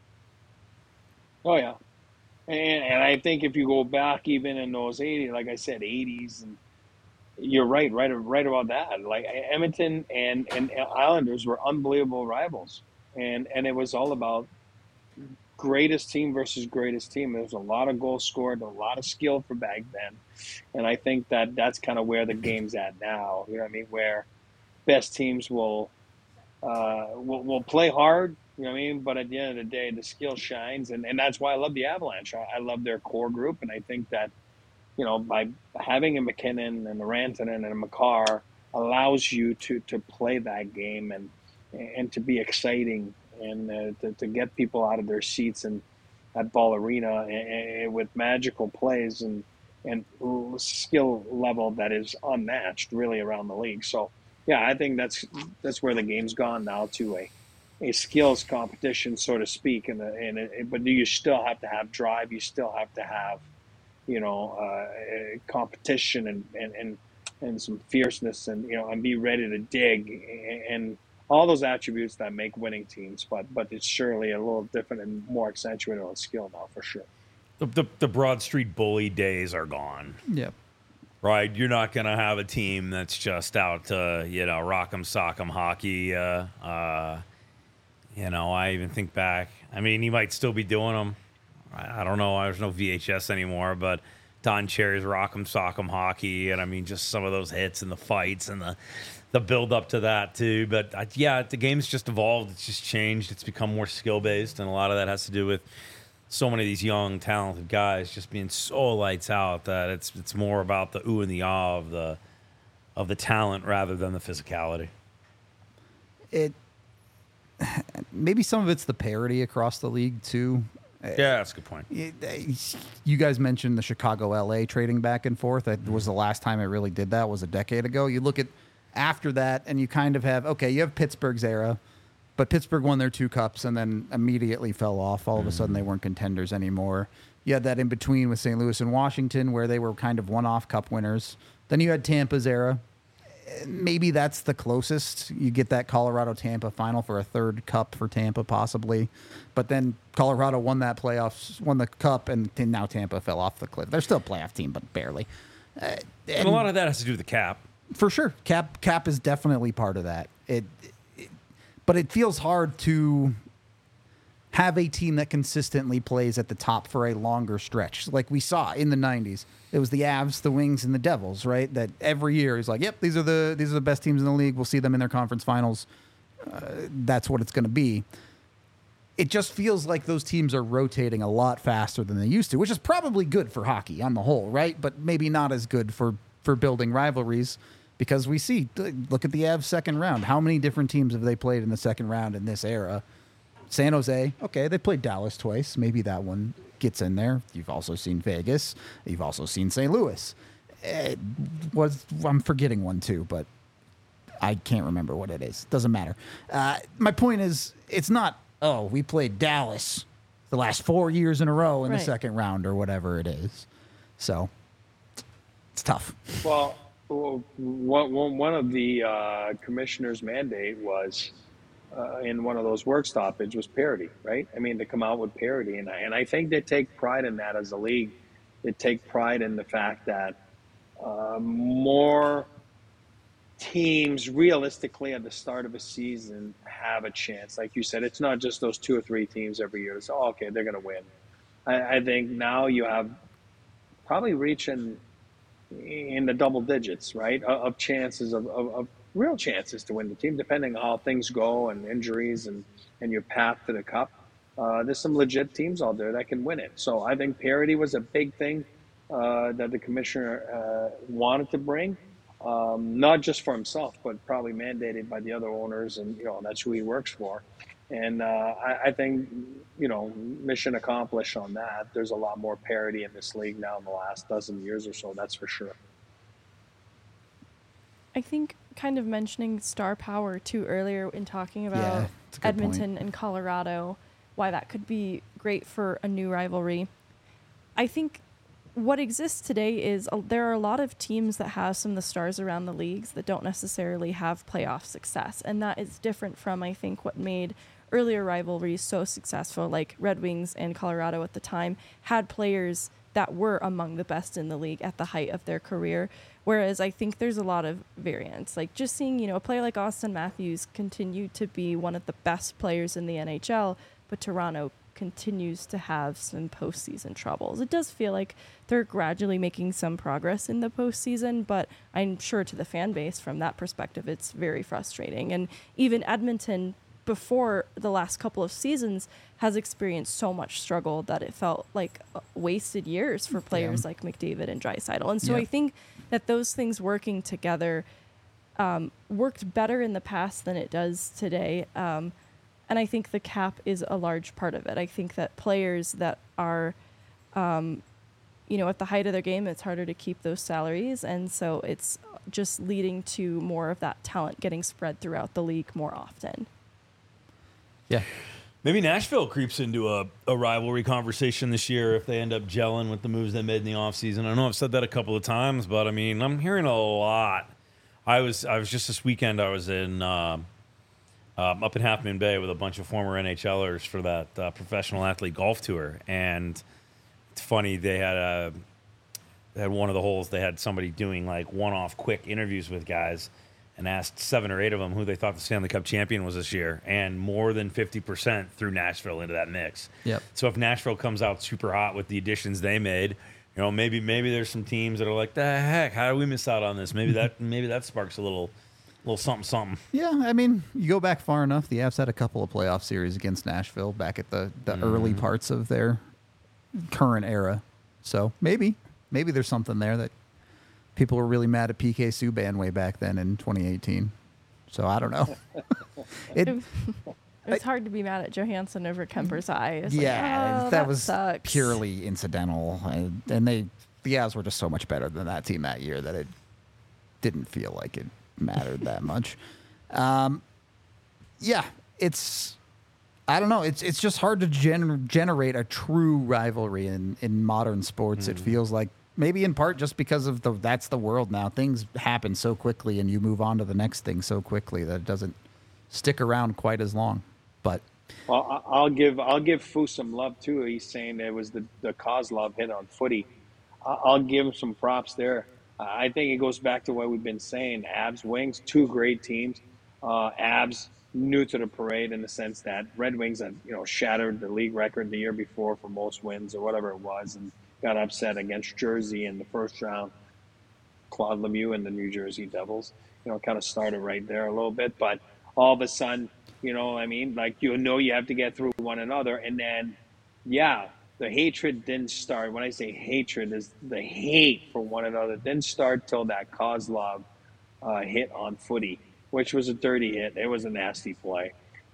Oh yeah, and I think if you go back even in those 80s, like I said, 80s, and you're right about that. Like Edmonton and Islanders were unbelievable rivals, and it was all about greatest team versus greatest team. There was a lot of goals scored, a lot of skill for back then, and I think that's kind of where the game's at now. You know what I mean? Where best teams will play hard. You know what I mean? But at the end of the day, the skill shines, and that's why I love the Avalanche. I love their core group, and I think that, you know, by having a McKinnon and a Rantanen and a Makar allows you to play that game and to be exciting and to get people out of their seats and at Ball Arena and with magical plays and skill level that is unmatched really around the league. So yeah, I think that's where the game's gone now, to a skills competition, so to speak. But you still have to have drive. You still have to have, you know, competition and some fierceness, and, you know, and be ready to dig and all those attributes that make winning teams. But it's surely a little different and more accentuated on skill now, for sure. The Broad Street Bully days are gone. Yep. Right, you're not going to have a team that's just out to, you know, rock'em sock'em hockey. You know, I even think back. I mean, you might still be doing them. I don't know. There's no VHS anymore, but Don Cherry's rock'em sock'em hockey, and I mean, just some of those hits and the fights and the build up to that too. But yeah, the game's just evolved. It's just changed. It's become more skill based, and a lot of that has to do with so many of these young, talented guys just being so lights out that it's more about the ooh and the ah of the talent rather than the physicality. Maybe some of it's the parity across the league too. Yeah, that's a good point. You guys mentioned the Chicago-LA trading back and forth. That was the last time it really did that, was a decade ago. You look at after that, and you kind of have, okay, you have Pittsburgh's era, but Pittsburgh won their 2 cups and then immediately fell off. All of a sudden, they weren't contenders anymore. You had that in between with St. Louis and Washington, where they were kind of one-off cup winners. Then you had Tampa's era. Maybe that's the closest. You get that Colorado-Tampa final for a 3rd cup for Tampa, possibly. But then Colorado won that playoffs, won the cup, and now Tampa fell off the cliff. They're still a playoff team, but barely. And a lot of that has to do with the cap. For sure. Cap is definitely part of that. But it feels hard to have a team that consistently plays at the top for a longer stretch. Like we saw in the 90s. It was the Avs, the Wings, and the Devils, right? That every year is like, yep, these are the best teams in the league. We'll see them in their conference finals. That's what it's going to be. It just feels like those teams are rotating a lot faster than they used to, which is probably good for hockey on the whole, right? But maybe not as good for building rivalries, because we see, look at the Avs second round. How many different teams have they played in the second round in this era? San Jose, okay, they played Dallas twice. Maybe that one gets in there. You've also seen Vegas. You've also seen St. Louis. I'm forgetting one too, but I can't remember what it is. Doesn't matter. My point is, it's not, oh, we played Dallas the last 4 years in a row in the second round or whatever it is. So it's tough. Well, one of the commissioner's mandate was in one of those work stoppage was parity, right? I mean, to come out with parity, and I think they take pride in that as a league. They take pride in the fact that more teams realistically at the start of a season have a chance. Like you said, it's not just those 2 or 3 teams every year. It's, oh, okay, they're going to win. I think now you have probably reaching in the double digits, right, of chances of real chances to win the team, depending on how things go and injuries and your path to the cup. There's some legit teams out there that can win it. So I think parity was a big thing that the commissioner wanted to bring, not just for himself, but probably mandated by the other owners, and that's who he works for. And I think mission accomplished on that. There's a lot more parity in this league now in the last dozen years or so. That's for sure. I think kind of mentioning star power too earlier in talking about that's a good Edmonton point. and Colorado, why that could be great for a new rivalry. I think what exists today is there are a lot of teams that have some of the stars around the leagues that don't necessarily have playoff success. And that is different from, I think, what made earlier rivalries so successful, like Red Wings and Colorado at the time had players that were among the best in the league at the height of their career. Whereas I think there's a lot of variance. Like just seeing, a player like Austin Matthews continue to be one of the best players in the NHL, but Toronto continues to have some postseason troubles. It does feel like they're gradually making some progress in the postseason, but I'm sure to the fan base from that perspective, it's very frustrating. And even Edmonton, before the last couple of seasons, has experienced so much struggle that it felt like wasted years for players like McDavid and Draisaitl. And so I think that those things working together worked better in the past than it does today. And I think the cap is a large part of it. I think that players that are, at the height of their game, it's harder to keep those salaries. And so it's just leading to more of that talent getting spread throughout the league more often. Yeah. Maybe Nashville creeps into a rivalry conversation this year if they end up gelling with the moves they made in the offseason. I know I've said that a couple of times, but I mean, I'm hearing a lot. I was just this weekend, I was in up in Half Moon Bay with a bunch of former NHLers for that professional athlete golf tour. And it's funny, they had one of the holes, they had somebody doing like one-off quick interviews with guys and asked 7 or 8 of them who they thought the Stanley Cup champion was this year, and more than 50% threw Nashville into that mix. Yep. So if Nashville comes out super hot with the additions they made, maybe there's some teams that are like, the heck, how did we miss out on this? Maybe that sparks a little something. Yeah, I mean, you go back far enough. The Avs had a couple of playoff series against Nashville back at the early parts of their current era. So maybe there's something there that people were really mad at PK Subban way back then in 2018. So I don't know. It's hard to be mad at Johansson over Kemper's eye. It's that was sucks. purely incidental. And the Avs were just so much better than that team that year that it didn't feel like it mattered that much. It's I don't know. It's just hard to generate a true rivalry in modern sports. It feels like maybe in part just because of that's the world now. Things happen so quickly and you move on to the next thing so quickly that it doesn't stick around quite as long. But I'll give Fu some love too. He's saying it was the Kozlov hit on Footy. I'll give him some props there. I think it goes back to what we've been saying. Avs, Wings, 2 great teams. Avs new to the parade in the sense that Red Wings had shattered the league record the year before for most wins or whatever it was, and got upset against Jersey in the first round. Claude Lemieux and the New Jersey Devils, kind of started right there a little bit, but all of a sudden, you have to get through one another, and then, the hatred didn't start. When I say hatred, is the hate for one another didn't start till that Kozlov hit on Footy, which was a dirty hit. It was a nasty play,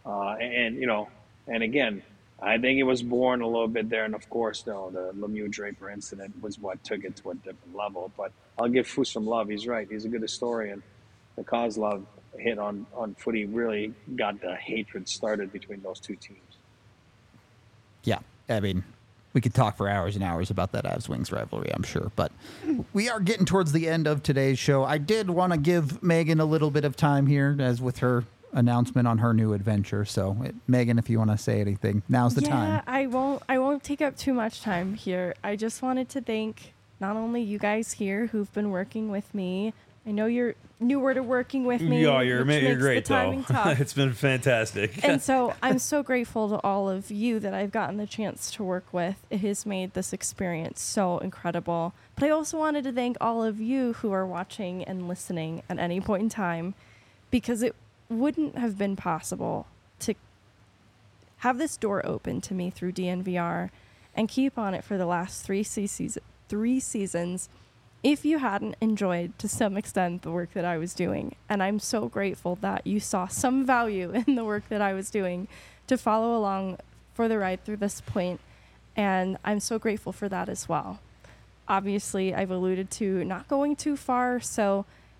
and again, I think it was born a little bit there, and of course, the Lemieux Draper incident was what took it to a different level. But I'll give Fu some love. He's right. He's a good historian. The Kozlov hit on Footy really got the hatred started between those 2 teams. yeah, I mean, we could talk for hours and hours about that Avs-Wings rivalry, I'm sure. But we are getting towards the end of today's show. I did want to give Megan a little bit of time here, as with her announcement on her new adventure. So, Megan, if you want to say anything, now's the time. I won't take up too much time here. I just wanted to thank not only you guys here who've been working with me. I know you're newer to working with me. Yeah, you're great, the timing though. tough. It's been fantastic. And so I'm so grateful to all of you that I've gotten the chance to work with. It has made this experience so incredible. But I also wanted to thank all of you who are watching and listening at any point in time, because it wouldn't have been possible to have this door open to me through DNVR and keep on it for the last 3 seasons if you hadn't enjoyed to some extent the work that I was doing. And I'm so grateful that you saw some value in the work that I was doing to follow along for the ride through this point. And I'm so grateful for that as well. Obviously, I've alluded to not going too far, so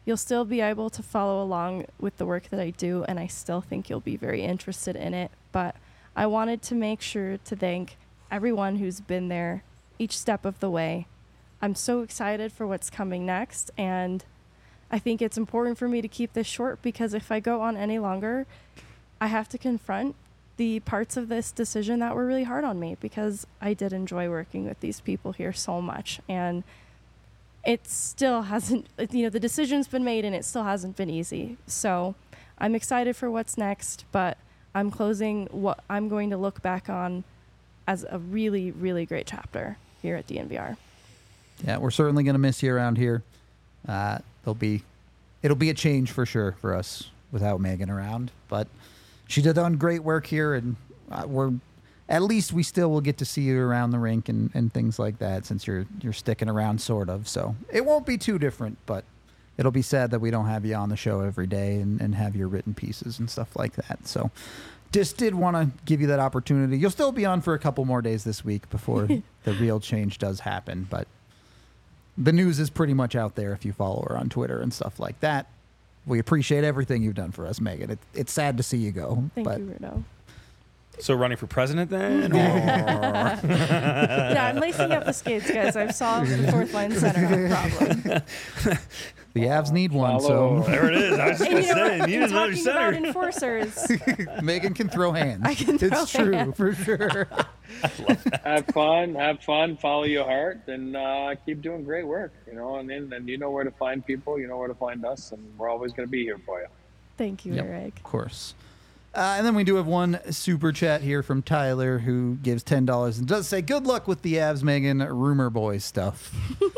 you'll still be able to follow along with the work that I do, and I still think you'll be very interested in it. But I wanted to make sure to thank everyone who's been there each step of the way. I'm so excited for what's coming next, and I think it's important for me to keep this short because if I go on any longer, I have to confront the parts of this decision that were really hard on me because I did enjoy working with these people here so much. And it still hasn't, the decision's been made and it still hasn't been easy. So I'm excited for what's next, but I'm closing what I'm going to look back on as a really, really great chapter here at DNVR. Yeah, we're certainly going to miss you around here. It'll be a change for sure for us without Megan around, but she did done great work here, and at least we still will get to see you around the rink and things like that since you're sticking around sort of. So it won't be too different, but it'll be sad that we don't have you on the show every day and have your written pieces and stuff like that. So just did want to give you that opportunity. You'll still be on for a couple more days this week before the real change does happen, but the news is pretty much out there if you follow her on Twitter and stuff like that. We appreciate everything you've done for us, Megan. It's sad to see you go. Thank you, Rudo. So running for president then? Yeah, I'm lacing up the skates, guys. I've solved the fourth line center problem. The Avs need one, Follow. so There it is. I was just going to say, need And another talking about center. enforcers, Megan can throw hands. I can throw It's true, hands. for sure. Have fun, follow your heart, and keep doing great work. And you know where to find people, you know where to find us, and we're always going to be here for you. thank you, Yep, Eric. of course. And then we do have one super chat here from Tyler who gives $10 and does say, good luck with the Avs, Megan, rumor boy stuff.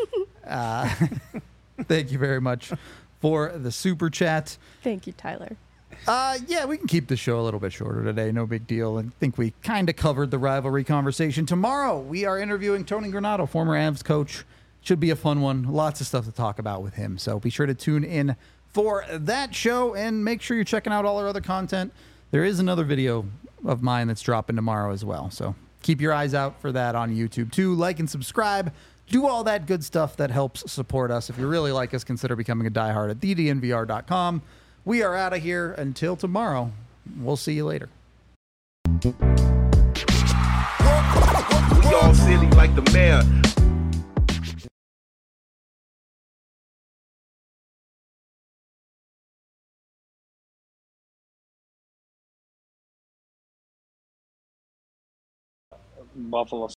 Thank you very much for the super chat. Thank you, Tyler. Yeah, we can keep the show a little bit shorter today. No big deal. I think we kind of covered the rivalry conversation. Tomorrow, we are interviewing Tony Granato, former Avs coach. Should be a fun one. Lots of stuff to talk about with him. So be sure to tune in for that show and make sure you're checking out all our other content. There is another video of mine that's dropping tomorrow as well. So keep your eyes out for that on YouTube too. Like and subscribe. Do all that good stuff that helps support us. If you really like us, consider becoming a diehard at thednvr.com. We are out of here until tomorrow. We'll see you later. We all silly like the mayor. Buffalo